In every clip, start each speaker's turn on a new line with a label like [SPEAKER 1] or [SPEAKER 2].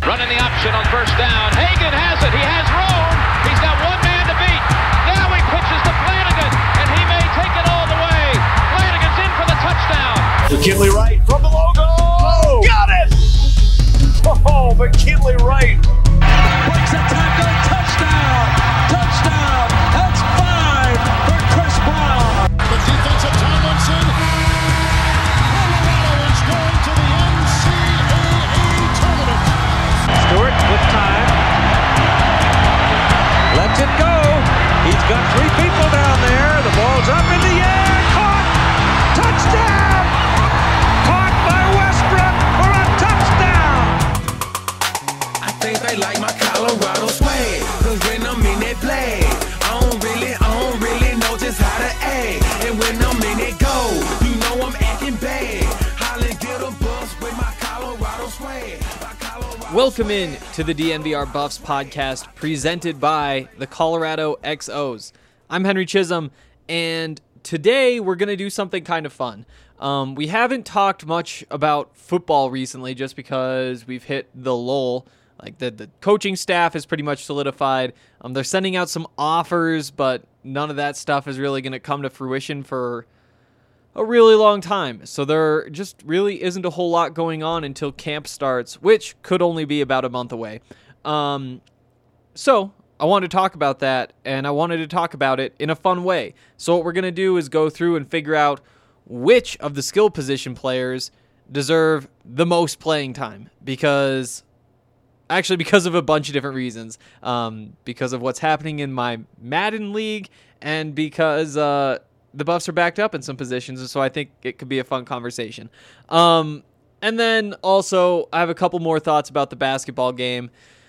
[SPEAKER 1] Running the option on first down. Hagan has it. He has room. He's got one man to beat. Now he pitches to Flanagan, and he may take it all the way. Flanagan's in for the touchdown.
[SPEAKER 2] McKinley Wright from the logo. Oh, got it! Oh, McKinley Wright.
[SPEAKER 3] Breaks a tackle. Touchdown. Touchdown. That's 5 for Chris Brown.
[SPEAKER 4] The defense of Tomlinson. Colorado is going to the NCAA tournament.
[SPEAKER 3] Stewart with time. Lets it go. He's got 3 people down there. The ball's up in the air. Caught. Touchdown. Caught by Westbrook for a touchdown.
[SPEAKER 5] I think they like my Colorado swag. Cause when I'm in that play, I don't really know just how to act. And when I'm in it go, you know I'm acting bad. Holly get a bus with my Colorado swag.
[SPEAKER 6] Welcome in to the DNVR Buffs podcast presented by the Colorado XOs. I'm Henry Chisholm, and today we're going to do something kind of fun. We haven't talked much about football recently just because we've hit the lull. Like the coaching staff is pretty much solidified. They're sending out some offers, but none of that stuff is really going to come to fruition for a really long time. So there just really isn't a whole lot going on until camp starts, which could only be about a month away. So I wanted to talk about that, and I wanted to talk about it in a fun way. So what we're going to do is go through and figure out which of the skill position players deserve the most playing time, because of a bunch of different reasons. Because of what's happening in my Madden league, and because the Buffs are backed up in some positions, so I think it could be a fun conversation. And then also, I have a couple more thoughts about the basketball game.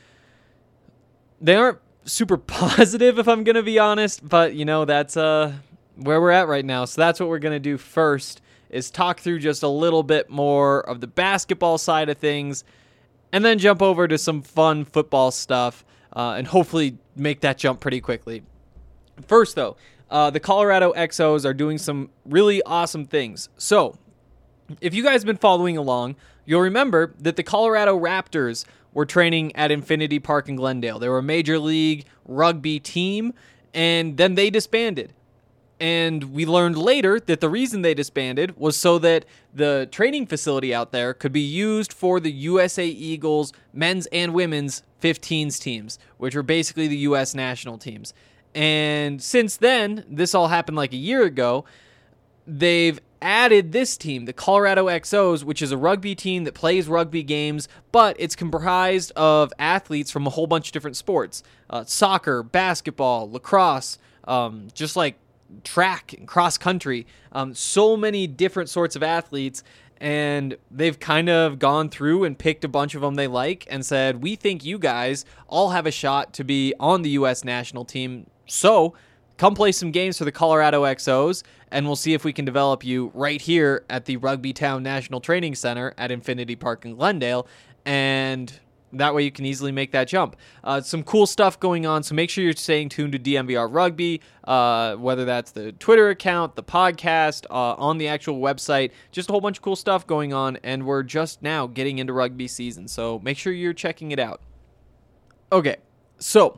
[SPEAKER 6] They aren't super positive, if I'm going to be honest, but, that's where we're at right now. So that's what we're going to do first, is talk through just a little bit more of the basketball side of things, and then jump over to some fun football stuff, and hopefully make that jump pretty quickly. First, though, the Colorado XOs are doing some really awesome things. So, if you guys have been following along, you'll remember that the Colorado Raptors were training at Infinity Park in Glendale. They were a Major League Rugby team, and then they disbanded. And we learned later that the reason they disbanded was so that the training facility out there could be used for the USA Eagles men's and women's 15s teams, which were basically the U.S. national teams. And since then, this all happened like a year ago, they've added this team, the Colorado XOs, which is a rugby team that plays rugby games, but it's comprised of athletes from a whole bunch of different sports. Soccer, basketball, lacrosse, just like track and cross country. So many different sorts of athletes, and they've kind of gone through and picked a bunch of them they like and said, we think you guys all have a shot to be on the U.S. national team. So come play some games for the Colorado XOs, and we'll see if we can develop you right here at the Rugby Town National Training Center at Infinity Park in Glendale, and that way you can easily make that jump. Some cool stuff going on, so make sure you're staying tuned to DNVR Rugby, whether that's the Twitter account, the podcast, on the actual website, just a whole bunch of cool stuff going on, and we're just now getting into rugby season, so make sure you're checking it out. Okay, so,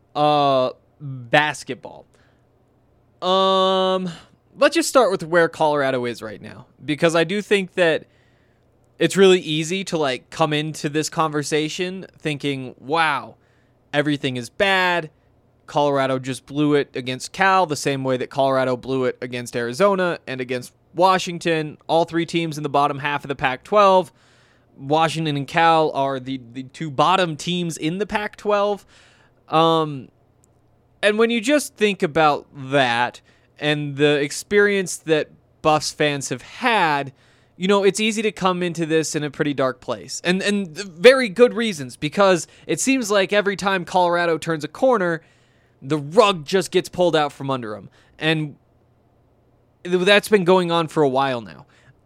[SPEAKER 6] basketball. Let's just start with where Colorado is right now, because I do think that it's really easy to come into this conversation thinking, wow, everything is bad. Colorado just blew it against Cal the same way that Colorado blew it against Arizona and against Washington, all 3 teams in the bottom half of the Pac-12. Washington and Cal are the 2 bottom teams in the Pac-12. And when you just think about that and the experience that Buffs fans have had, it's easy to come into this in a pretty dark place. And very good reasons, because it seems like every time Colorado turns a corner, the rug just gets pulled out from under them. And that's been going on for a while now.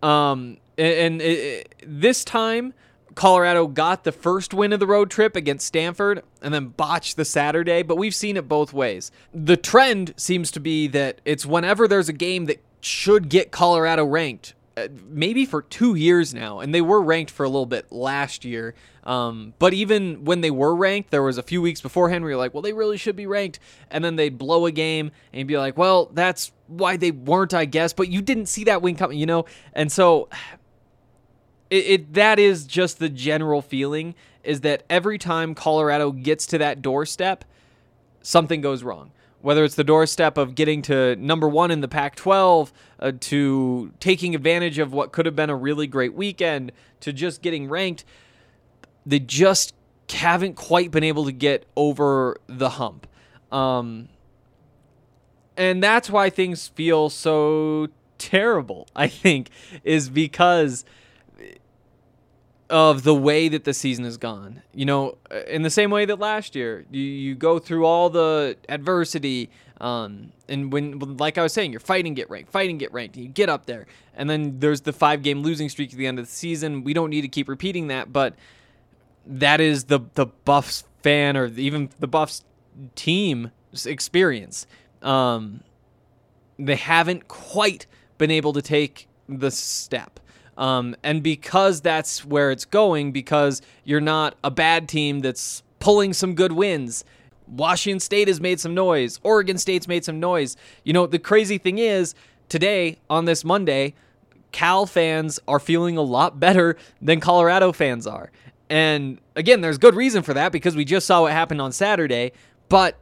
[SPEAKER 6] This time, Colorado got the first win of the road trip against Stanford and then botched the Saturday, but we've seen it both ways. The trend seems to be that it's whenever there's a game that should get Colorado ranked, maybe for 2 years now, and they were ranked for a little bit last year. But even when they were ranked, there was a few weeks beforehand where you're like, well, they really should be ranked, and then they'd blow a game, and you'd be like, well, that's why they weren't, I guess, but you didn't see that win coming, you know? And so that is just the general feeling, is that every time Colorado gets to that doorstep, something goes wrong. Whether it's the doorstep of getting to number 1 in the Pac-12, to taking advantage of what could have been a really great weekend, to just getting ranked, they just haven't quite been able to get over the hump. And that's why things feel so terrible, I think, is because of the way that the season has gone. You know, in the same way that last year, you go through all the adversity, and when, like I was saying, you're fighting, get ranked, and you get up there, and then there's the 5-game losing streak at the end of the season. We don't need to keep repeating that, but that is the Buffs fan, or even the Buffs team experience. They haven't quite been able to take the step. And because that's where it's going, because you're not a bad team that's pulling some good wins. Washington State has made some noise. Oregon State's made some noise. You know, the crazy thing is, today, on this Monday, Cal fans are feeling a lot better than Colorado fans are. And again, there's good reason for that, because we just saw what happened on Saturday. But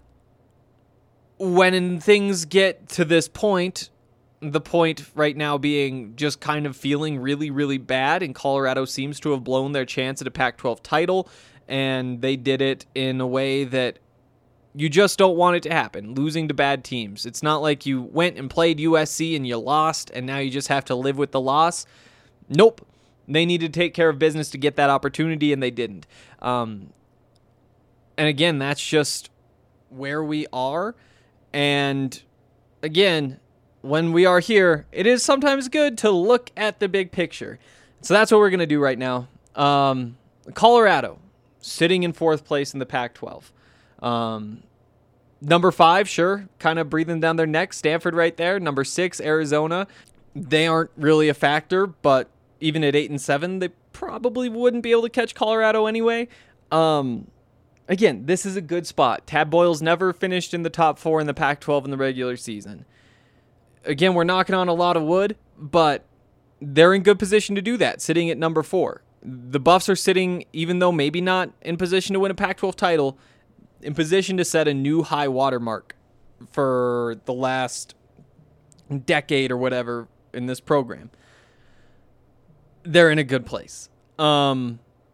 [SPEAKER 6] when things get to this point, the point right now being just kind of feeling really, really bad, and Colorado seems to have blown their chance at a Pac-12 title, and they did it in a way that you just don't want it to happen, losing to bad teams. It's not like you went and played USC and you lost, and now you just have to live with the loss. Nope. They needed to take care of business to get that opportunity, and they didn't. And again, that's just where we are. And again, when we are here, it is sometimes good to look at the big picture. So that's what we're going to do right now. Colorado, sitting in 4th place in the Pac-12. Number 5, sure, kind of breathing down their neck. Stanford right there. Number 6, Arizona. They aren't really a factor, but even at 8-7, they probably wouldn't be able to catch Colorado anyway. Again, this is a good spot. Tad Boyle's never finished in the top 4 in the Pac-12 in the regular season. Again, we're knocking on a lot of wood, but they're in good position to do that, sitting at number 4. The Buffs are sitting, even though maybe not in position to win a Pac-12 title, in position to set a new high water mark for the last decade or whatever in this program. They're in a good place. And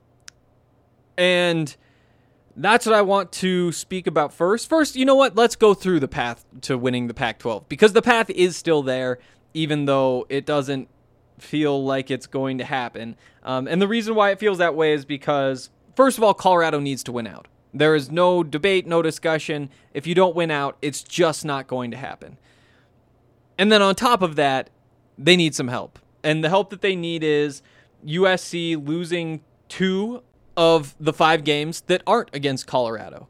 [SPEAKER 6] that's what I want to speak about first. First, you know what? Let's go through the path to winning the Pac-12, because the path is still there, even though it doesn't feel like it's going to happen. And the reason why it feels that way is because, first of all, Colorado needs to win out. There is no debate, no discussion. If you don't win out, it's just not going to happen. And then on top of that, they need some help. And the help that they need is USC losing 2 of the 5 games that aren't against Colorado.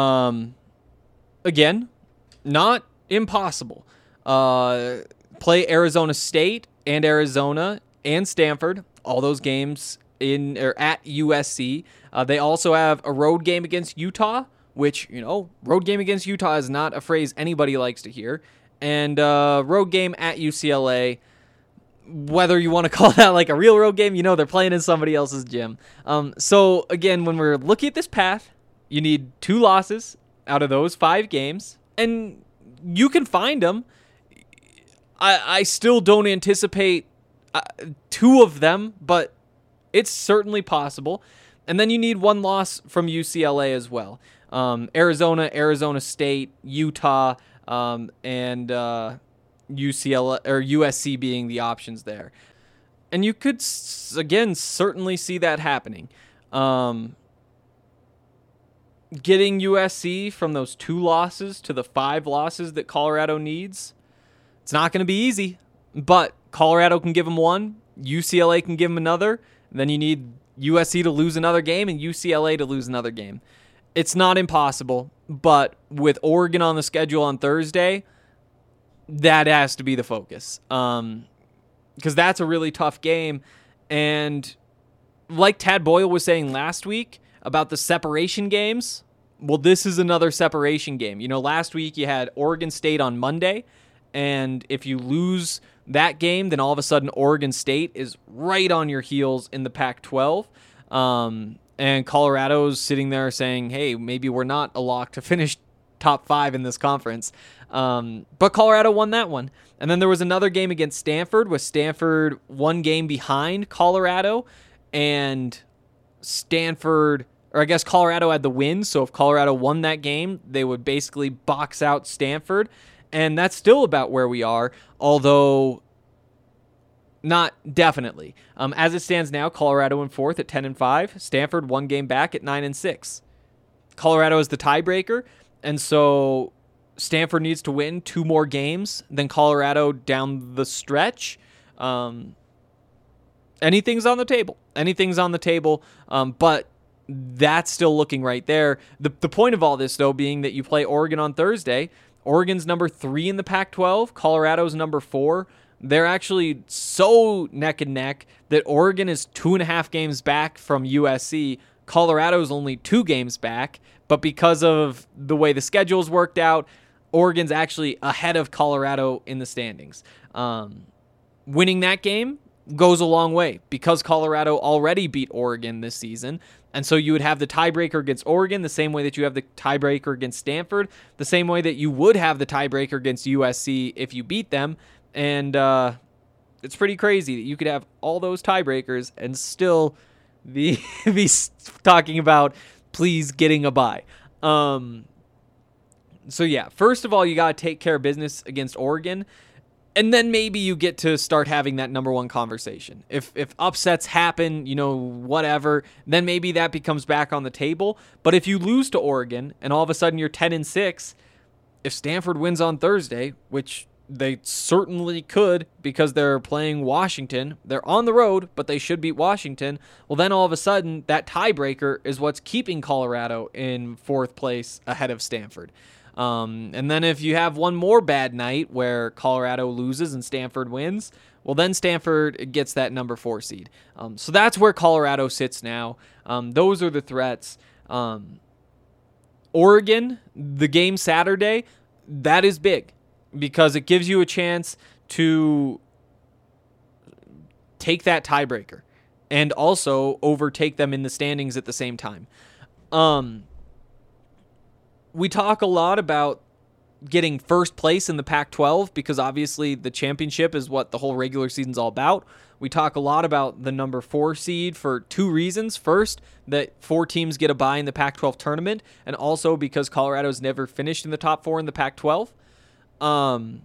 [SPEAKER 6] Again, not impossible. Play Arizona State and Arizona and Stanford, all those games at USC. They also have a road game against Utah, which, you know, road game against Utah is not a phrase anybody likes to hear. And road game at UCLA. Whether you want to call that like a real road game, you know, they're playing in somebody else's gym. So again, when we're looking at this path, you need 2 losses out of those 5 games, and you can find them. I still don't anticipate 2 of them, but it's certainly possible. And then you need 1 loss from UCLA as well. Arizona, Arizona State, Utah, and UCLA or USC being the options there. And you could, again, certainly see that happening. Getting USC from those 2 losses to the 5 losses that Colorado needs, it's not going to be easy, but Colorado can give them 1, UCLA can give them another, then you need USC to lose another game and UCLA to lose another game. It's not impossible, but with Oregon on the schedule on Thursday, that has to be the focus. because that's a really tough game. And like Tad Boyle was saying last week about the separation games, well, this is another separation game. Last week you had Oregon State on Monday, and if you lose that game, then all of a sudden Oregon State is right on your heels in the Pac-12. And Colorado's sitting there saying, hey, maybe we're not a lock to finish top 5 in this conference. But Colorado won that one. And then there was another game against Stanford with Stanford one game behind Colorado, and Colorado had the win. So if Colorado won that game, they would basically box out Stanford. And that's still about where we are, although not definitely. As it stands now, Colorado in 4th at 10-5. Stanford one game back at 9-6. Colorado is the tiebreaker, and so Stanford needs to win 2 more games than Colorado down the stretch. Anything's on the table. But that's still looking right there. The point of all this, though, being that you play Oregon on Thursday. Oregon's number 3 in the Pac-12. Colorado's number 4. They're actually so neck and neck that Oregon is 2.5 games back from USC. Colorado's only 2 games back, but because of the way the schedule's worked out, Oregon's actually ahead of Colorado in the standings. Winning that game goes a long way because Colorado already beat Oregon this season. And so you would have the tiebreaker against Oregon the same way that you have the tiebreaker against Stanford, the same way that you would have the tiebreaker against USC if you beat them. And it's pretty crazy that you could have all those tiebreakers and still be talking about please getting a bye. So yeah, first of all, you got to take care of business against Oregon. And then maybe you get to start having that number 1 conversation. If upsets happen, whatever, then maybe that becomes back on the table. But if you lose to Oregon and all of a sudden you're 10-6, if Stanford wins on Thursday, which they certainly could because they're playing Washington, they're on the road, but they should beat Washington. Well, then all of a sudden that tiebreaker is what's keeping Colorado in 4th place ahead of Stanford. And then if you have one more bad night where Colorado loses and Stanford wins, well, then Stanford gets that number 4 seed. So that's where Colorado sits now. Those are the threats. Oregon, the game Saturday, that is big because it gives you a chance to take that tiebreaker and also overtake them in the standings at the same time. We talk a lot about getting first place in the Pac-12 because obviously the championship is what the whole regular season's all about. We talk a lot about the number 4 seed for 2 reasons. First, that 4 teams get a bye in the Pac-12 tournament, and also because Colorado's never finished in the top 4 in the Pac-12. And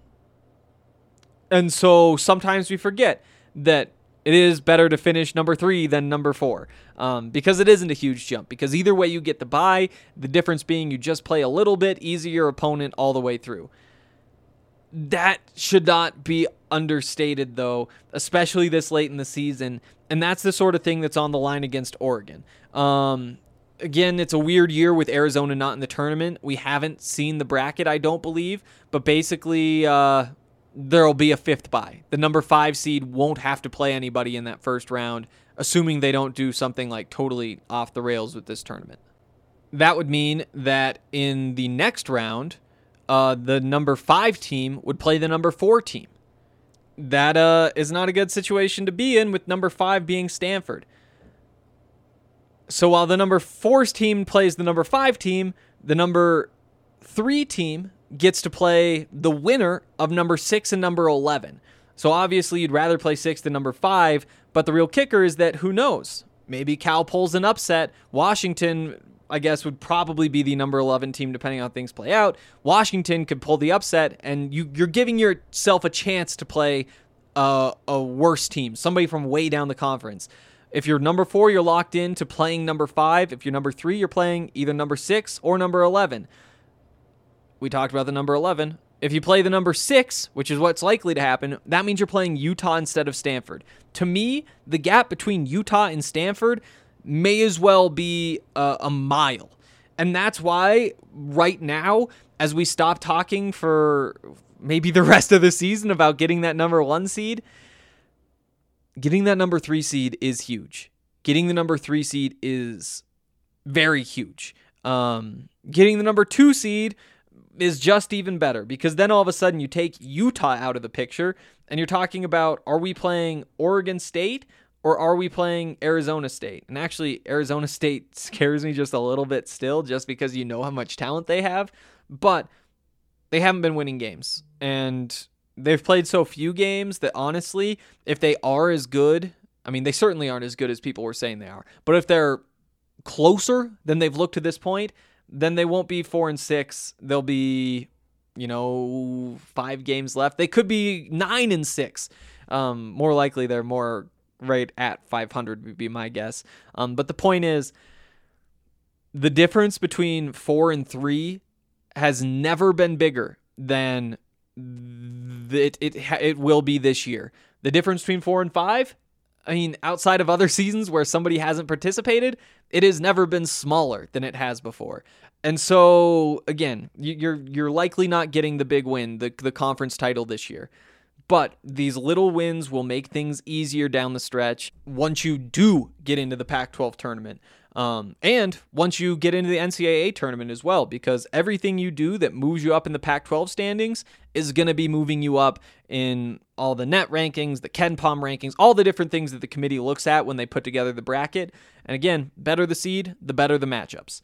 [SPEAKER 6] so sometimes we forget that it is better to finish number 3 than number 4 because it isn't a huge jump. Because either way you get the bye, the difference being you just play a little bit easier opponent all the way through. That should not be understated, though, especially this late in the season. And that's the sort of thing that's on the line against Oregon. Again, it's a weird year with Arizona not in the tournament. We haven't seen the bracket, I don't believe. But basically, there'll be a 5th bye. The number 5 seed won't have to play anybody in that first round, assuming they don't do something like totally off the rails with this tournament. That would mean that in the next round, the number 5 team would play the number 4 team. That is not a good situation to be in, with number 5 being Stanford. So while the number 4 team plays the number 5 team, the number 3 team gets to play the winner of number 6 and number 11. So obviously you'd rather play 6 than number 5, but the real kicker is that who knows? Maybe Cal pulls an upset. Washington, I guess, would probably be the number 11 team depending on how things play out. Washington could pull the upset, and you're giving yourself a chance to play a worse team, somebody from way down the conference. If you're number 4, you're locked in to playing number 5. If you're number 3, you're playing either number 6 or number 11. We talked about the number 11. If you play the number 6, which is what's likely to happen, that means you're playing Utah instead of Stanford. To me, the gap between Utah and Stanford may as well be a mile. And that's why right now, as we stop talking for maybe the rest of the season about getting that number 1 seed, getting that number 3 seed is huge. Getting the number 3 seed is very huge. Getting the number 2 seed is just even better, because then all of a sudden you take Utah out of the picture and you're talking about, are we playing Oregon State or are we playing Arizona State? And actually, Arizona State scares me just a little bit still, just because you know how much talent they have, but they haven't been winning games. And they've played so few games that honestly, if they are as good, I mean, they certainly aren't as good as people were saying they are, but if they're closer than they've looked to this point, then they won't be 4-6. They'll be, 5 games left. They could be 9-6. More likely, they're more right at 500 would be my guess. But the point is, the difference between 4 and 3 has never been bigger than it will be this year. The difference between 4 and 5, I mean, outside of other seasons where somebody hasn't participated, it has never been smaller than it has before. And so, again, you're likely not getting the big win, the conference title this year. But these little wins will make things easier down the stretch once you do get into the Pac-12 tournament. And once you get into the NCAA tournament as well, because everything you do that moves you up in the Pac-12 standings is going to be moving you up in all the net rankings, the KenPom rankings, all the different things that the committee looks at when they put together the bracket. And again, better the seed, the better the matchups.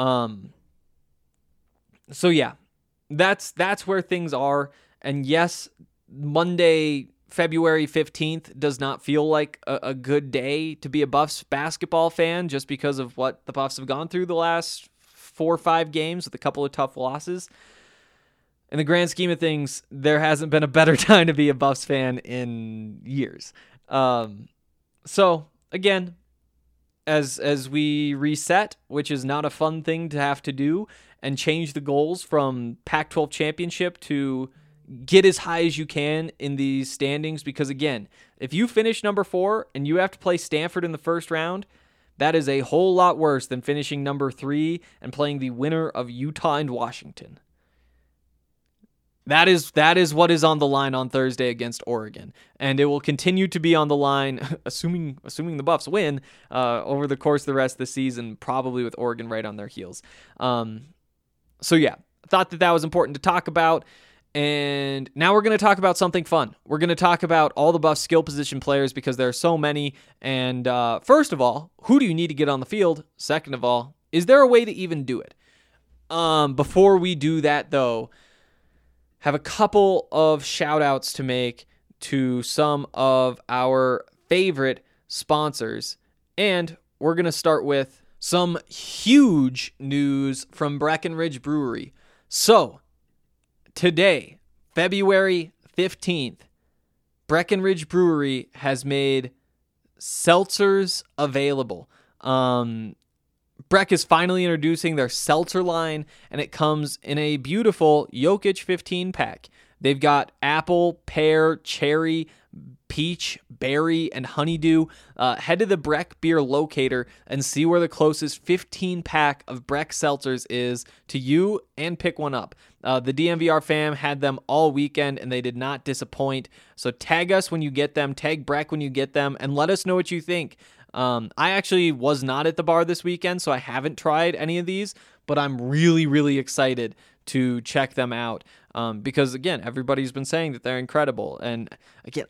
[SPEAKER 6] So yeah, that's where things are. And yes, Monday, February 15th does not feel like a good day to be a Buffs basketball fan, just because of what the Buffs have gone through the last 4 or 5 games with a couple of tough losses. In the grand scheme of things, there hasn't been a better time to be a Buffs fan in years. So again, as we reset, which is not a fun thing to have to do, and change the goals from Pac-12 championship to get as high as you can in these standings, because again, if you finish number 4 and you have to play Stanford in the first round, that is a whole lot worse than finishing number 3 and playing the winner of Utah and Washington. That is what is on the line on Thursday against Oregon, and it will continue to be on the line, assuming the Buffs win, over the course of the rest of the season, probably with Oregon right on their heels. So yeah, I thought that was important to talk about. And now we're going to talk about something fun. We're going to talk about all the Buffs skill position players, because there are so many. And first of all, who do you need to get on the field? Second of all, is there a way to even do it? Before we do that, though, have a couple of shout outs to make to some of our favorite sponsors. And we're going to start with some huge news from Breckenridge Brewery. So, today, February 15th, Breckenridge Brewery has made seltzers available. Breck is finally introducing their seltzer line, and it comes in a beautiful Jokic 15-pack. They've got apple, pear, cherry, peach, berry, and honeydew. Head to the Breck Beer Locator and see where the closest 15-pack of Breck seltzers is to you, and pick one up. The DMVR fam had them all weekend, and they did not disappoint. So tag us when you get them, tag Breck when you get them, and let us know what you think. I actually was not at the bar this weekend, so I haven't tried any of these, but I'm really, really excited to check them out. Because again, everybody's been saying that they're incredible. And again,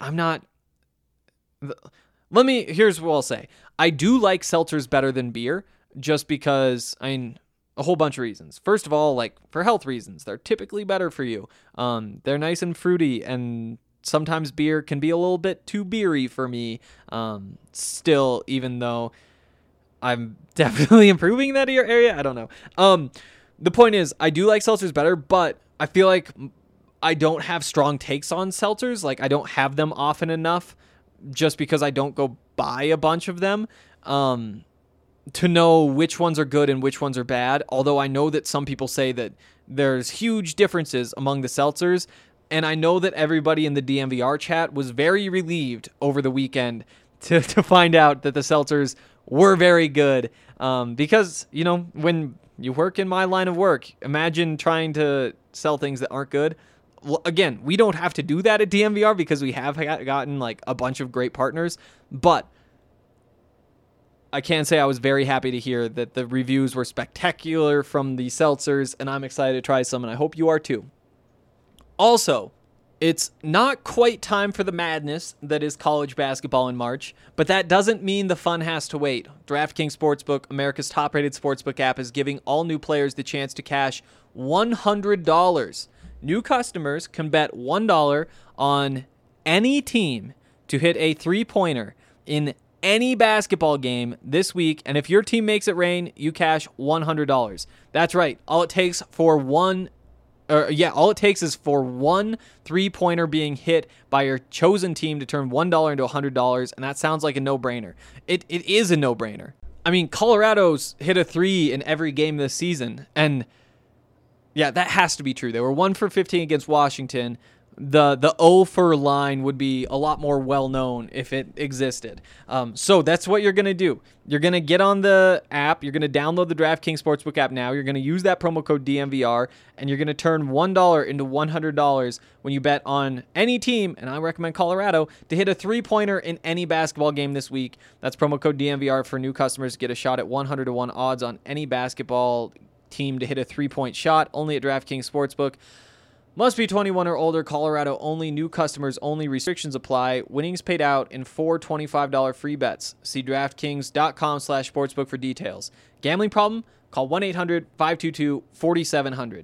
[SPEAKER 6] here's what I'll say. I do like seltzers better than beer, just because, a whole bunch of reasons. First of all, like for health reasons, they're typically better for you. They're nice and fruity, and sometimes beer can be a little bit too beery for me. Still, even though I'm definitely improving that area, I don't know. The point is, I do like seltzers better, but I feel like I don't have strong takes on seltzers. Like, I don't have them often enough, just because I don't go buy a bunch of them, to know which ones are good and which ones are bad. Although I know that some people say that there's huge differences among the seltzers, and I know that everybody in the DMVR chat was very relieved over the weekend to find out that the seltzers were very good. Because, when you work in my line of work, imagine trying to sell things that aren't good. again, we don't have to do that at DNVR because we have gotten like a bunch of great partners, but I can say I was very happy to hear that the reviews were spectacular from the seltzers, and I'm excited to try some, and I hope you are too. Also, it's not quite time for the madness that is college basketball in March, but that doesn't mean the fun has to wait. DraftKings Sportsbook, America's top-rated sportsbook app, is giving all new players the chance to cash $100. New customers can bet $1 on any team to hit a three-pointer in any basketball game this week, and if your team makes it rain, you cash $100. That's right. All it takes is for one three-pointer being hit by your chosen team to turn $1 into $100, and that sounds like a no-brainer. It is a no-brainer. I mean, Colorado's hit a three in every game this season, and yeah, that has to be true. They were 1 for 15 against Washington. The 0 for line would be a lot more well-known if it existed. So that's what you're going to do. You're going to get on the app. You're going to download the DraftKings Sportsbook app now. You're going to use that promo code DNVR, and you're going to turn $1 into $100 when you bet on any team, and I recommend Colorado, to hit a three-pointer in any basketball game this week. That's promo code DNVR for new customers to get a shot at 100-1 odds on any basketball team to hit a three-point shot, only at DraftKings Sportsbook. Must be 21 or older. Colorado only. New customers only. Restrictions apply. Winnings paid out in 4 $25 free bets. See DraftKings.com/sportsbook for details. Gambling problem? Call 1-800-522-4700.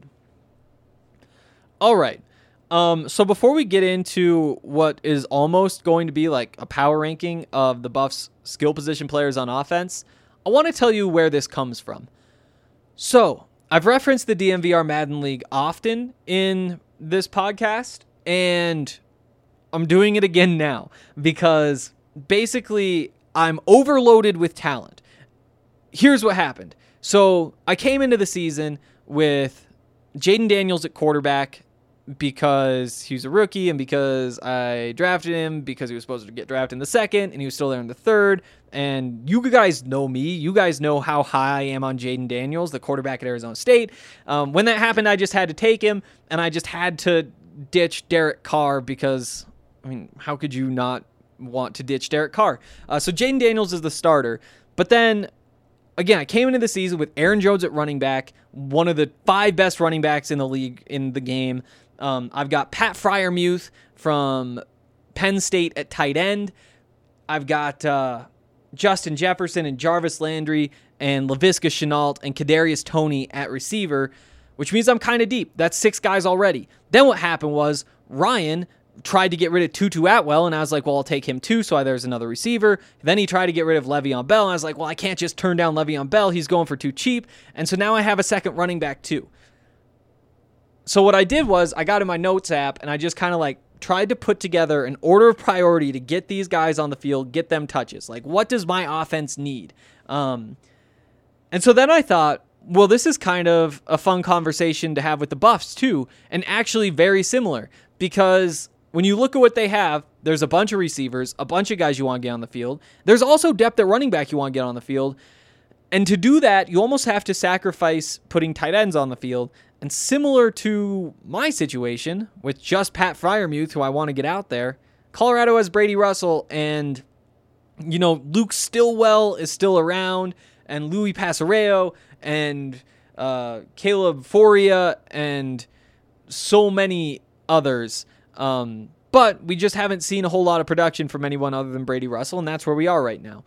[SPEAKER 6] All right. So before we get into what is almost going to be like a power ranking of the Buffs' skill position players on offense, I want to tell you where this comes from. So, I've referenced the DNVR Madden League often in this podcast, and I'm doing it again now because basically I'm overloaded with talent. Here's what happened. So I came into the season with Jaden Daniels at quarterback because he's a rookie and because I drafted him because he was supposed to get drafted in the second and he was still there in the third. And you guys know me. You guys know how high I am on Jaden Daniels, the quarterback at Arizona State. When that happened, I just had to take him, and I just had to ditch Derek Carr because, I mean, how could you not want to ditch Derek Carr? So Jaden Daniels is the starter. But then, again, I came into the season with Aaron Jones at running back, one of the 5 best running backs in the league in the game. I've got Pat Freiermuth from Penn State at tight end. I've got Justin Jefferson and Jarvis Landry and Laviska Shenault and Kadarius Toney at receiver, which means I'm kind of deep. That's 6 guys already. Then what happened was Ryan tried to get rid of Tutu Atwell, and I was like, well, I'll take him too, so there's another receiver. Then he tried to get rid of Le'Veon Bell, and I was like, well, I can't just turn down Le'Veon Bell. He's going for too cheap. And so now I have a second running back too. So what I did was I got in my notes app, and I just kind of like tried to put together an order of priority to get these guys on the field, get them touches. Like, what does my offense need? And so then I thought, well, this is kind of a fun conversation to have with the Buffs too, and actually very similar, because when you look at what they have, there's a bunch of receivers, a bunch of guys you want to get on the field. There's also depth at running back you want to get on the field. And to do that, you almost have to sacrifice putting tight ends on the field. And similar to my situation with just Pat Freiermuth, who I want to get out there, Colorado has Brady Russell, and, you know, Luke Stillwell is still around, and Louis Pasareo, and Caleb Foria, and so many others. But we just haven't seen a whole lot of production from anyone other than Brady Russell, and that's where we are right now.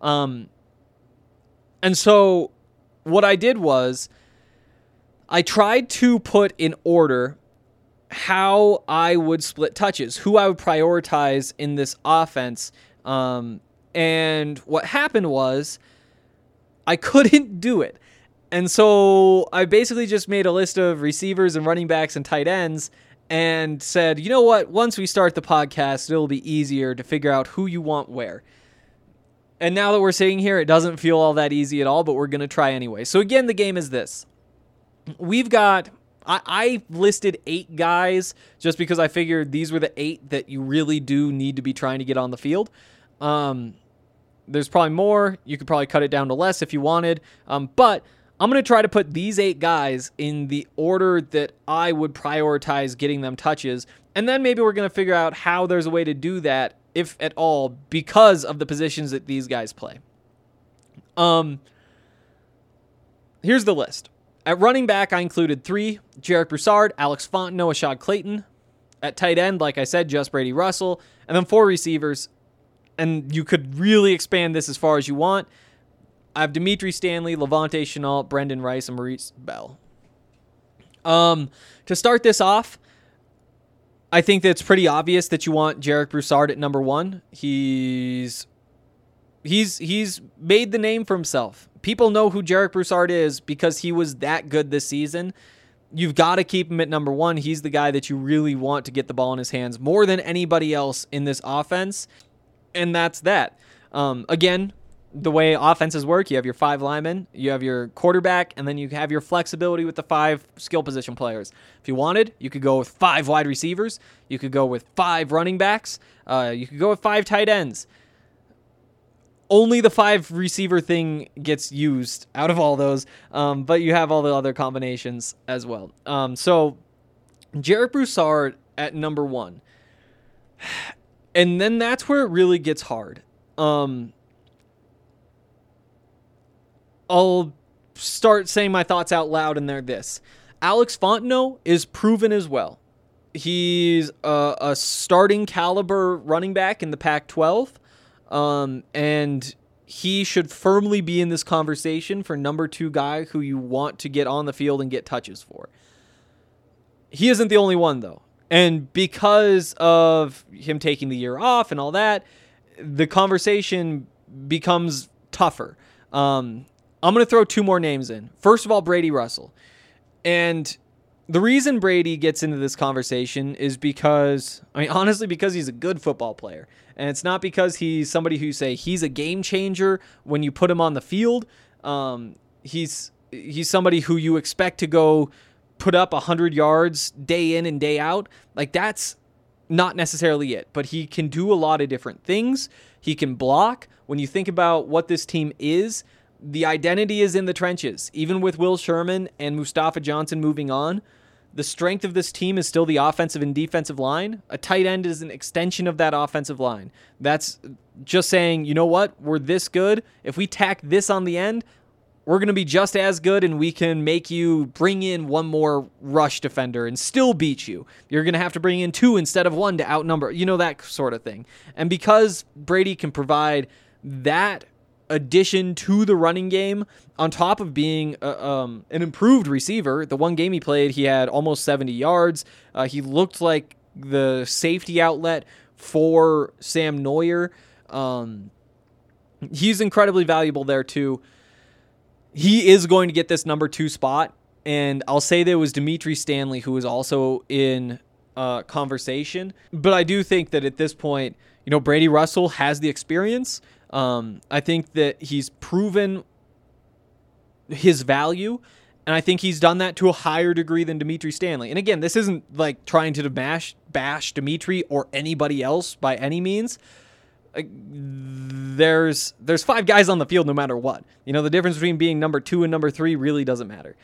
[SPEAKER 6] And so what I did was I tried to put in order how I would split touches, who I would prioritize in this offense. And what happened was I couldn't do it. And so I basically just made a list of receivers and running backs and tight ends and said, you know what, once we start the podcast, it'll be easier to figure out who you want where. And now that we're sitting here, it doesn't feel all that easy at all, but we're going to try anyway. So again, the game is this. We've got, I listed 8 guys just because I figured these were the 8 that you really do need to be trying to get on the field. There's probably more. You could probably cut it down to less if you wanted. But I'm going to try to put these 8 guys in the order that I would prioritize getting them touches, and then maybe we're going to figure out how there's a way to do that, if at all, because of the positions that these guys play. Here's the list. At running back, I included 3, Jarek Broussard, Alex Fontenot, Ashad Clayton. At tight end, like I said, just Brady Russell. And then 4 receivers, and you could really expand this as far as you want. I have Dimitri Stanley, Levante Chenault, Brendan Rice, and Maurice Bell. To start this off, I think that it's pretty obvious that you want Jarek Broussard at number 1. He's made the name for himself. People know who Jarek Broussard is because he was that good this season. You've got to keep him at number 1. He's the guy that you really want to get the ball in his hands more than anybody else in this offense, and that's that. Again, the way offenses work, you have your 5 linemen, you have your quarterback, and then you have your flexibility with the 5 skill position players. If you wanted, you could go with 5 wide receivers, you could go with 5 running backs, you could go with 5 tight ends. Only the 5 receiver thing gets used out of all those, but you have all the other combinations as well. So Jarek Broussard at number 1. And then that's where it really gets hard. I'll start saying my thoughts out loud, and they're this. Alex Fontenot is proven as well. He's a starting caliber running back in the Pac-12, and he should firmly be in this conversation for number 2 guy who you want to get on the field and get touches for. He isn't the only one, though. And because of him taking the year off and all that, the conversation becomes tougher. I'm going to throw 2 more names in. First of all, Brady Russell. And the reason Brady gets into this conversation is because, honestly, because he's a good football player. And it's not because he's somebody who say he's a game changer when you put him on the field. He's somebody who you expect to go put up 100 yards day in and day out. Like, that's not necessarily it. But he can do a lot of different things. He can block. When you think about what this team is, the identity is in the trenches. Even with Will Sherman and Mustafa Johnson moving on, the strength of this team is still the offensive and defensive line. A tight end is an extension of that offensive line. That's just saying, you know what? We're this good. If we tack this on the end, we're going to be just as good, and we can make you bring in 1 more rush defender and still beat you. You're going to have to bring in 2 instead of 1 to outnumber, that sort of thing. And because Brady can provide that addition to the running game, on top of being an improved receiver. The 1 game he played, he had almost 70 yards. He looked like the safety outlet for Sam Neuer. He's incredibly valuable there too. He is going to get this number 2 spot, and I'll say there was Dimitri Stanley who was also in conversation. But I do think that at this point, Brady Russell has the experience. I think that he's proven his value, and I think he's done that to a higher degree than Dimitri Stanley. And again, this isn't like trying to bash Dimitri or anybody else by any means. There's 5 guys on the field no matter what. The difference between being number 2 and number 3 really doesn't matter.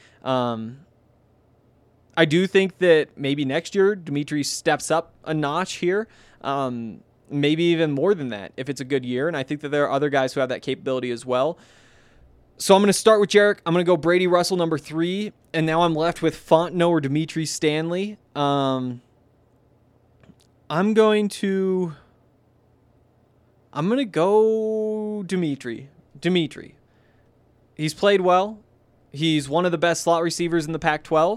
[SPEAKER 6] I do think that maybe next year Dimitri steps up a notch here. Maybe even more than that if it's a good year. And I think that there are other guys who have that capability as well. So I'm going to start with Jarek. I'm going to go Brady Russell number 3. And now I'm left with Fontenot or Dimitri Stanley. I'm going to go Dimitri. He's played well. He's one of the best slot receivers in the Pac-12.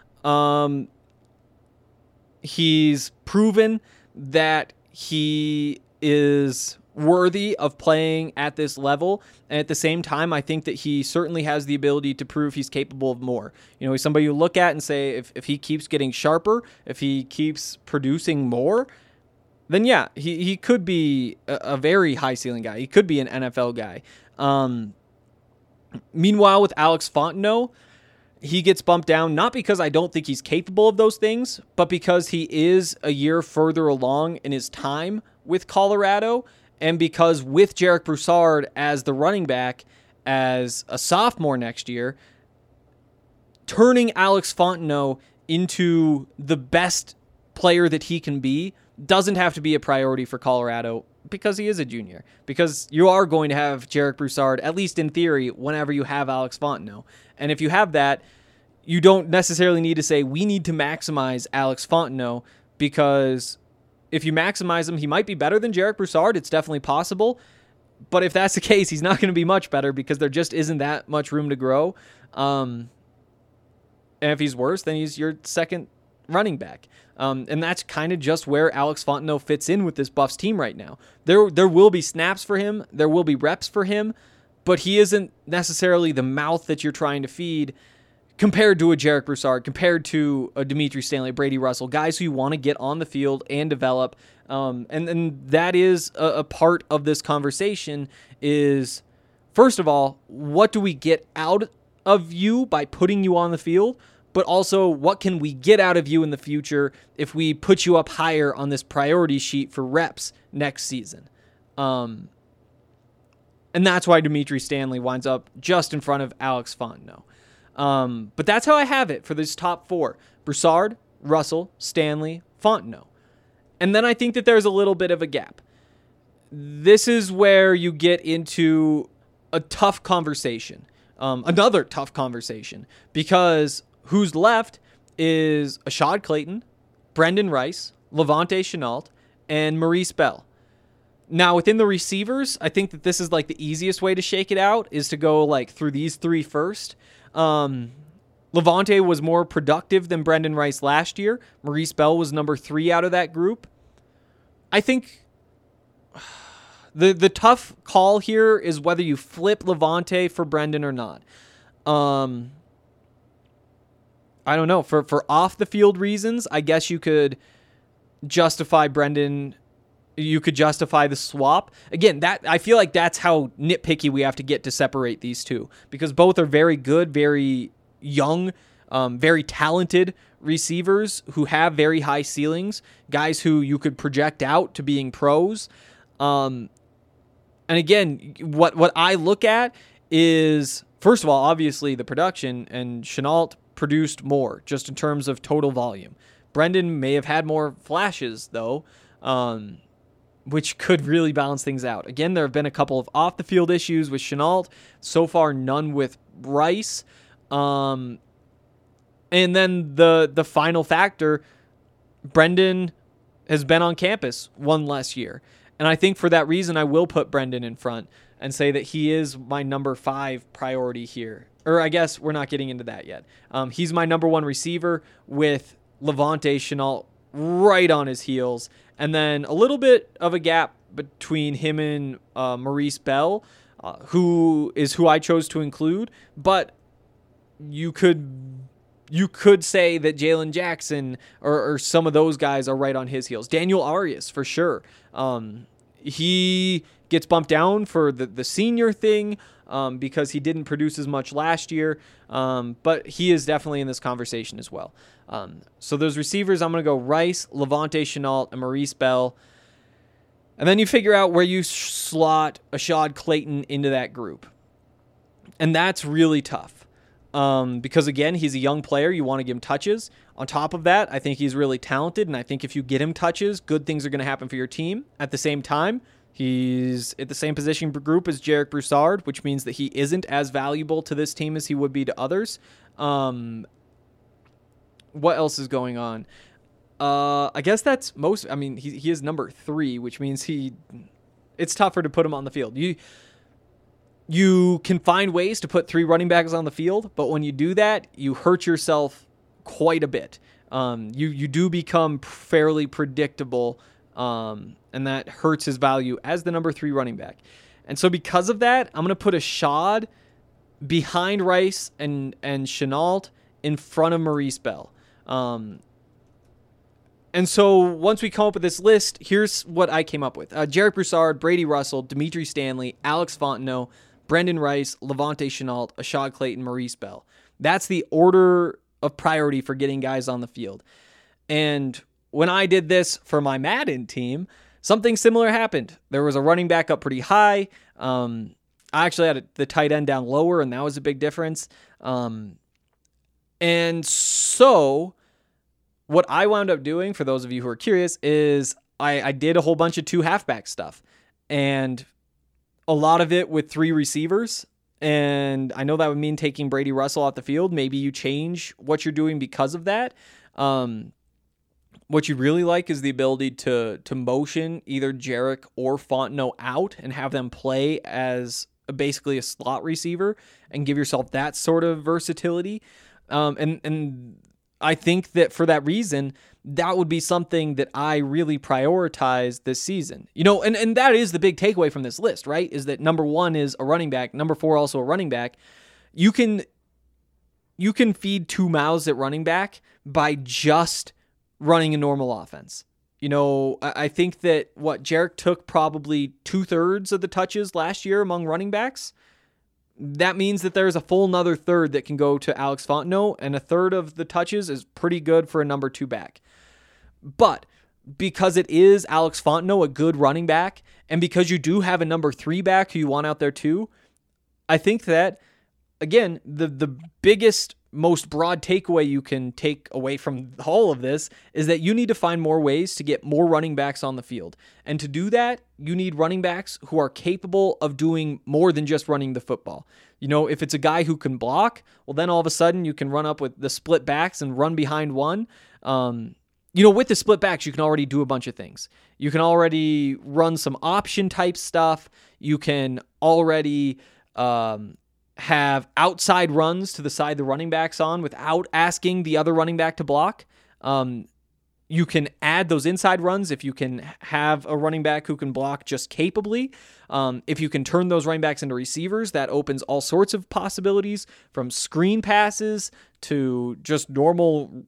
[SPEAKER 6] He's proven that he is worthy of playing at this level. And at the same time, I think that he certainly has the ability to prove he's capable of more. He's somebody you look at and say, if he keeps getting sharper, if he keeps producing more, then yeah, he could be a very high ceiling guy. He could be an NFL guy. Meanwhile, with Alex Fontenot, he gets bumped down, not because I don't think he's capable of those things, but because he is a year further along in his time with Colorado, and because with Jarek Broussard as the running back as a sophomore next year, turning Alex Fontenot into the best player that he can be doesn't have to be a priority for Colorado because he is a junior. Because you are going to have Jarek Broussard, at least in theory, whenever you have Alex Fontenot. And if you have that, you don't necessarily need to say, we need to maximize Alex Fontenot, because if you maximize him, he might be better than Jarek Broussard. It's definitely possible. But if that's the case, he's not going to be much better because there just isn't that much room to grow. And if he's worse, then he's your second running back. And that's kind of just where Alex Fontenot fits in with this Buffs team right now. There will be snaps for him. There will be reps for him. But he isn't necessarily the mouth that you're trying to feed compared to a Jarek Broussard, compared to a Dimitri Stanley, Brady Russell, guys who you want to get on the field and develop. And that is a part of this conversation is, first of all, what do we get out of you by putting you on the field? But also, what can we get out of you in the future if we put you up higher on this priority sheet for reps next season? And that's why Dimitri Stanley winds up just in front of Alex Fontenot. But that's how I have it for this top four: Broussard, Russell, Stanley, Fontenot. And then I think that there's a little bit of a gap. This is where you get into a tough conversation, another tough conversation, because who's left is Ashad Clayton, Brendan Rice, Levante Chenault, and Maurice Bell. Now, within the receivers, I think that this is like the easiest way to shake it out is to go like through these three first. Levante was more productive than Brendan Rice last year. Maurice Bell was number 3 out of that group. I think the tough call here is whether you flip Levante for Brendan or not. I don't know. For off the field reasons, I guess you could justify Brendan. You could justify the swap. Again, that I feel like that's how nitpicky we have to get to separate these two, because both are very good, very young, very talented receivers who have very high ceilings, guys who you could project out to being pros. And again, what I look at is, first of all, obviously the production, and Chenault produced more just in terms of total volume. Brendan may have had more flashes though, which could really balance things out. Again, there have been a couple of off-the-field issues with Chenault. So far, none with Rice. And then the final factor, Brendan has been on campus one less year. And I think for that reason, I will put Brendan in front and say that he is my number 5 priority here. Or I guess we're not getting into that yet. He's my number 1 receiver with Levante Chenault right on his heels. And then a little bit of a gap between him and Maurice Bell, who I chose to include. But you could say that Jalen Jackson or some of those guys are right on his heels. Daniel Arias, for sure. He gets bumped down for the senior thing because he didn't produce as much last year. But he is definitely in this conversation as well. So those receivers, I'm going to go Rice, Levante Chenault, and Maurice Bell. And then you figure out where you slot Ashad Clayton into that group. And that's really tough. Because, again, he's a young player. You want to give him touches. On top of that, I think he's really talented, and I think if you get him touches, good things are going to happen for your team. At the same time, he's at the same position group as Jarek Broussard, which means that he isn't as valuable to this team as he would be to others. What else is going on? I guess that's most. I mean, he is number 3, which means it's tougher to put him on the field. You can find ways to put 3 running backs on the field, but when you do that, you hurt yourself quite a bit. You do become fairly predictable, and that hurts his value as the number 3 running back. And so because of that, I'm going to put Ashad behind Rice and Chenault in front of Maurice Bell. And so once we come up with this list, here's what I came up with. Jarek Broussard, Brady Russell, Dimitri Stanley, Alex Fontenot, Brendan Rice, Levante Chenault, Ashad Clayton, Maurice Bell. That's the order of priority for getting guys on the field. And when I did this for my Madden team, something similar happened. There was a running back up pretty high. I actually had the tight end down lower, and that was a big difference. And so what I wound up doing, for those of you who are curious, is I did a whole bunch of 2 halfback stuff, and a lot of it with 3 receivers. And I know that would mean taking Brady Russell off the field. Maybe you change what you're doing because of that. What you really like is the ability to motion either Jarek or Fontenot out and have them play as basically a slot receiver and give yourself that sort of versatility. And I think that for that reason, that would be something that I really prioritize this season. And that is the big takeaway from this list, right? Is that number 1 is a running back, number 4 also a running back. You can feed 2 mouths at running back by just running a normal offense. I think that Jarek took probably 2/3 of the touches last year among running backs. That means that there's a full another third that can go to Alex Fontenot, and a third of the touches is pretty good for a number 2 back. But because it is Alex Fontenot, a good running back, and because you do have a number 3 back who you want out there too, I think that, again, the biggest, most broad takeaway you can take away from all of this is that you need to find more ways to get more running backs on the field. And to do that, you need running backs who are capable of doing more than just running the football. If it's a guy who can block, well, then all of a sudden you can run up with the split backs and run behind one. With the split backs, you can already do a bunch of things. You can already run some option type stuff. You can already have outside runs to the side the running back's on without asking the other running back to block. You can add those inside runs if you can have a running back who can block just capably. If you can turn those running backs into receivers, that opens all sorts of possibilities, from screen passes to just normal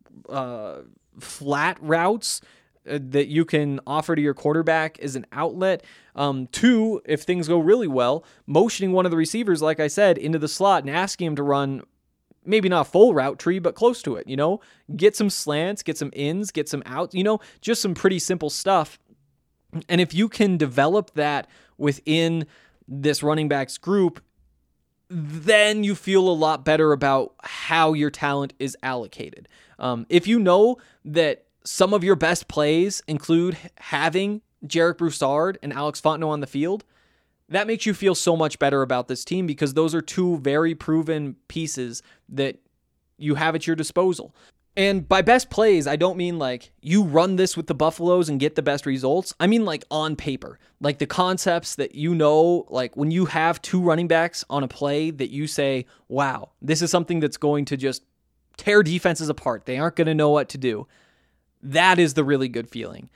[SPEAKER 6] flat routes that you can offer to your quarterback as an outlet. 2, if things go really well, motioning one of the receivers, like I said, into the slot and asking him to run maybe not a full route tree, but close to it, get some slants, get some ins, get some outs, just some pretty simple stuff. And if you can develop that within this running backs group, then you feel a lot better about how your talent is allocated. If you know that some of your best plays include having Jarek Broussard and Alex Fontenot on the field, that makes you feel so much better about this team, because those are 2 very proven pieces that you have at your disposal. And by best plays, I don't mean like you run this with the Buffaloes and get the best results. I mean like on paper, like the concepts that like when you have 2 running backs on a play that you say, wow, this is something that's going to just tear defenses apart. They aren't going to know what to do. That is the really good feeling.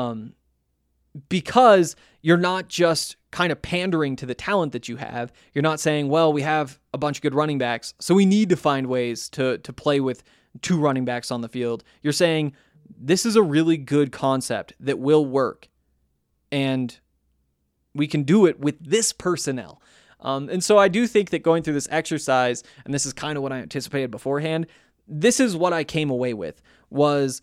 [SPEAKER 6] Because you're not just kind of pandering to the talent that you have. You're not saying, well, we have a bunch of good running backs, so we need to find ways to play with 2 running backs on the field. You're saying, this is a really good concept that will work, and we can do it with this personnel. And so I do think that going through this exercise, and this is kind of what I anticipated beforehand, this is what I came away with, was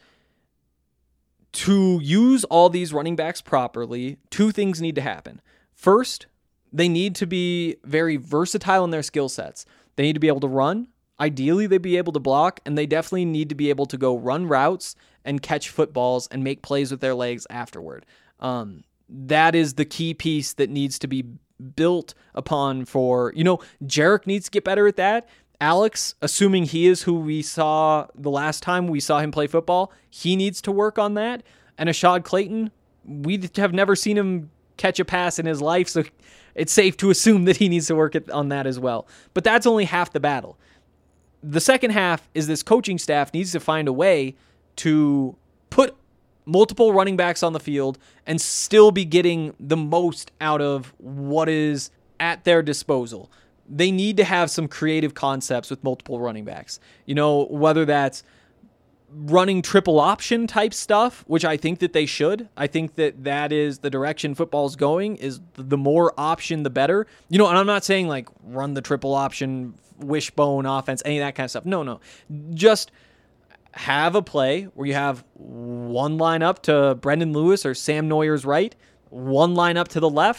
[SPEAKER 6] to use all these running backs properly. 2 things need to happen. First, they need to be very versatile in their skill sets. They need to be able to run. Ideally, they'd be able to block, and they definitely need to be able to go run routes and catch footballs and make plays with their legs afterward. That is the key piece that needs to be built upon for, Jarek needs to get better at that. Alex, assuming he is who we saw the last time we saw him play football, he needs to work on that. And Ashad Clayton, we have never seen him catch a pass in his life, so it's safe to assume that he needs to work on that as well. But that's only half the battle. The second half is this coaching staff needs to find a way to put multiple running backs on the field and still be getting the most out of what is at their disposal. They need to have some creative concepts with multiple running backs. Whether that's running triple option type stuff, which I think that they should. I think that is the direction football's going, is the more option, the better. And I'm not saying like run the triple option, wishbone offense, any of that kind of stuff. No. Just have a play where you have one line up to Brendan Lewis or Sam Noyer's right, one line up to the left,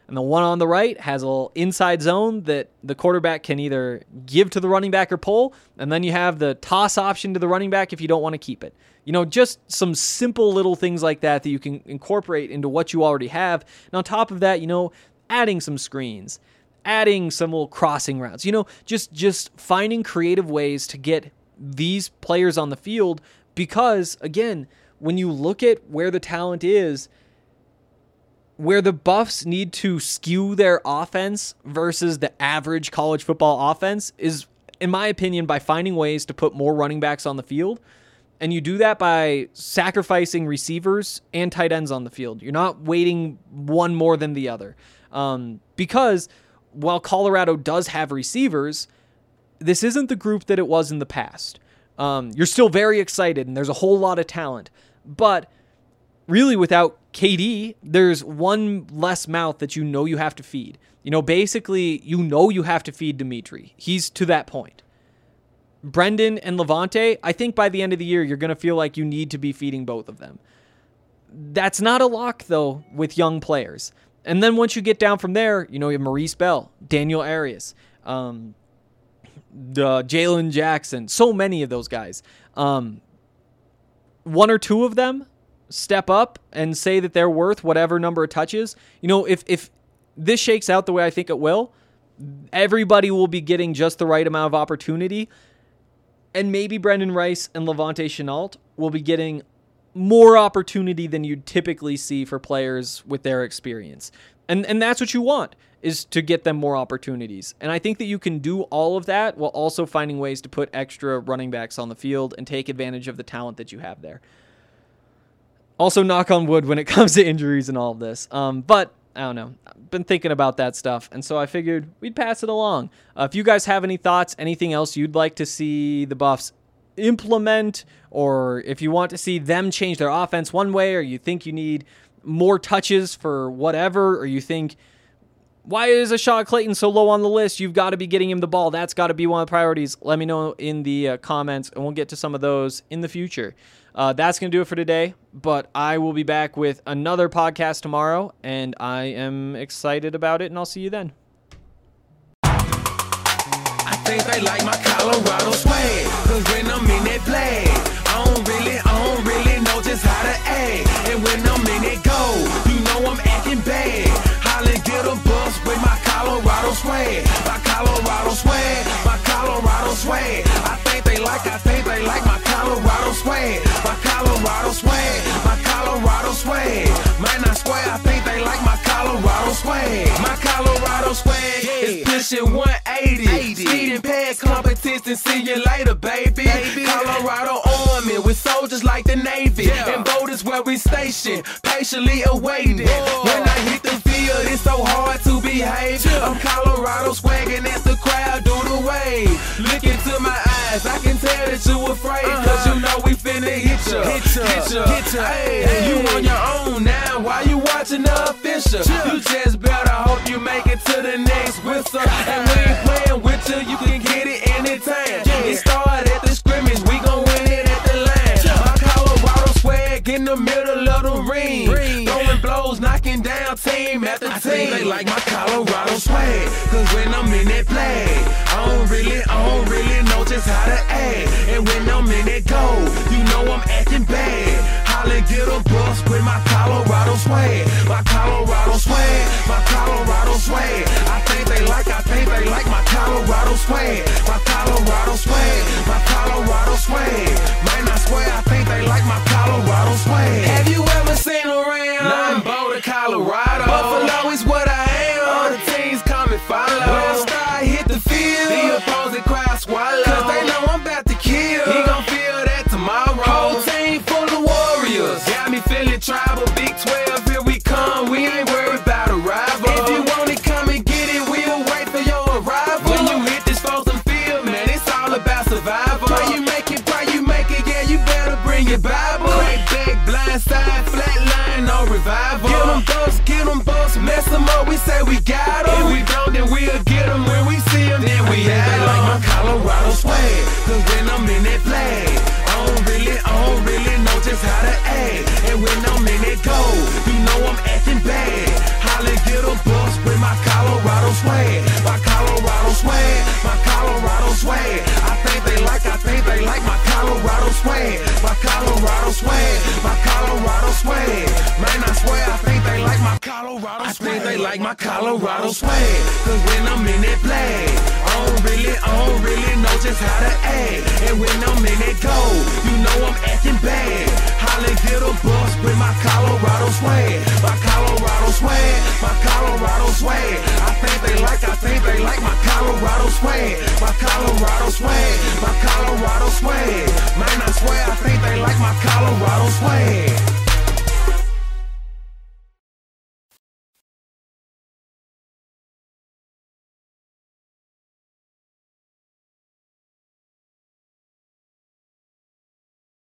[SPEAKER 6] And the one on the right has a little inside zone that the quarterback can either give to the running back or pull. And then you have the toss option to the running back if you don't want to keep it. Just some simple little things like that you can incorporate into what you already have. And on top of that, adding some screens, adding some little crossing routes, just finding creative ways to get these players on the field. Because, again, when you look at where the talent is, where the Buffs need to skew their offense versus the average college football offense is, in my opinion, by finding ways to put more running backs on the field. And you do that by sacrificing receivers and tight ends on the field. You're not weighting one more than the other. Because while Colorado does have receivers, this isn't the group that it was in the past. You're still very excited, and there's a whole lot of talent. But really, without KD, there's one less mouth that you have to feed. Basically, you have to feed Dimitri. He's to that point. Brendan and Levante, I think by the end of the year, you're going to feel like you need to be feeding both of them. That's not a lock, though, with young players. And then once you get down from there, you have Maurice Bell, Daniel Arias, Jalen Jackson, so many of those guys. One or two of them step up and say that they're worth whatever number of touches. If this shakes out the way I think it will, everybody will be getting just the right amount of opportunity. And maybe Brendan Rice and Levante Shenault will be getting more opportunity than you'd typically see for players with their experience. And that's what you want, is to get them more opportunities. And I think that you can do all of that while also finding ways to put extra running backs on the field and take advantage of the talent that you have there. Also, knock on wood when it comes to injuries and all of this. But I don't know. I've been thinking about that stuff, and so I figured we'd pass it along. If you guys have any thoughts, anything else you'd like to see the Buffs implement, or if you want to see them change their offense one way, or you think you need more touches for whatever, or you think, why is Ashad Clayton so low on the list? You've got to be getting him the ball. That's got to be one of the priorities. Let me know in the comments, and we'll get to some of those in the future. That's going to do it for today, but I will be back with another podcast tomorrow, and I am excited about it, and I'll see you then.
[SPEAKER 5] I think they like my Colorado swag, cause when I'm in that play, I don't really know just how to act. And when I'm in that go, I'm acting bad. Holly get a bus with my Colorado swag. My Colorado swag, my Colorado swag. I think they like my Colorado swag. My Colorado swag, my Colorado swag. Man, I swear I think they like my Colorado swag. My Colorado swag is pushing 180. Speeding past competition, see you later, baby. Colorado Army with soldiers like the Navy. And boat is where we station, patiently awaiting. When I hit the field, it's so hard to behave. I'm Colorado swagging as the crowd do the wave. Look into my eyes, I can tell that you afraid. Cause you know we finna hit ya. Hey, you on your own now, why you watching the official? You just better hope you make it to the next whistle. And we ain't playing with you can get it anytime. It started at the scrimmage, we gon' win it at the line. My Colorado swag in the middle of the ring. Throwing blows, knocking down team after team. I think they like my Colorado swag, cause when I'm in that play, I don't really know just how to act. And when I'm in that go, I'm acting bad. Holly get a bus with my Colorado swag. My Colorado swag, my Colorado swag. I think they like my Colorado swag. My Colorado swag, my Colorado swag. Man, I swear I think they like my Colorado swag. Have you ever seen around? Nah, I'm Boulder, Colorado. Buffalo is what I am. All the teams come and follow. When I start hit the field, the opposing crowd swallow. Cause they know I'm about to kill. He gon' feel that tomorrow. Whole team full of warriors. Got me feeling tribal. Big 12, here we come. We ain't worried about a rival. If you want it, come and get it. We'll wait for your arrival. When you hit this frozen field, man, it's all about survival. Pray you make it, yeah, you better bring your Bible. Crack back, blind side, flat line, no revival. Get them bucks, mess them up, we say we got them. If we don't, then we'll get them. When we see them, then we have them. Like my Colorado swag, cause when I'm in that flag, I don't really know just how to act. And when I'm in that go, I'm acting bad. Holly get a bus my Colorado swag. My Colorado swag, my Colorado swag. I think they like my Colorado swag. My Colorado swag, my Colorado swag. Man, I swear I think they like my Colorado swag. I think they like my Colorado swag. Cause when I'm in that flag, I don't really know just how to act. And when I'm in that goal, you know I'm acting bad. Holly get a bus with my Colorado swag. My Colorado swag, my Colorado swag. I think they like my Colorado swag. My Colorado swag, my Colorado swag. Man, I swear I think they like my Colorado swag.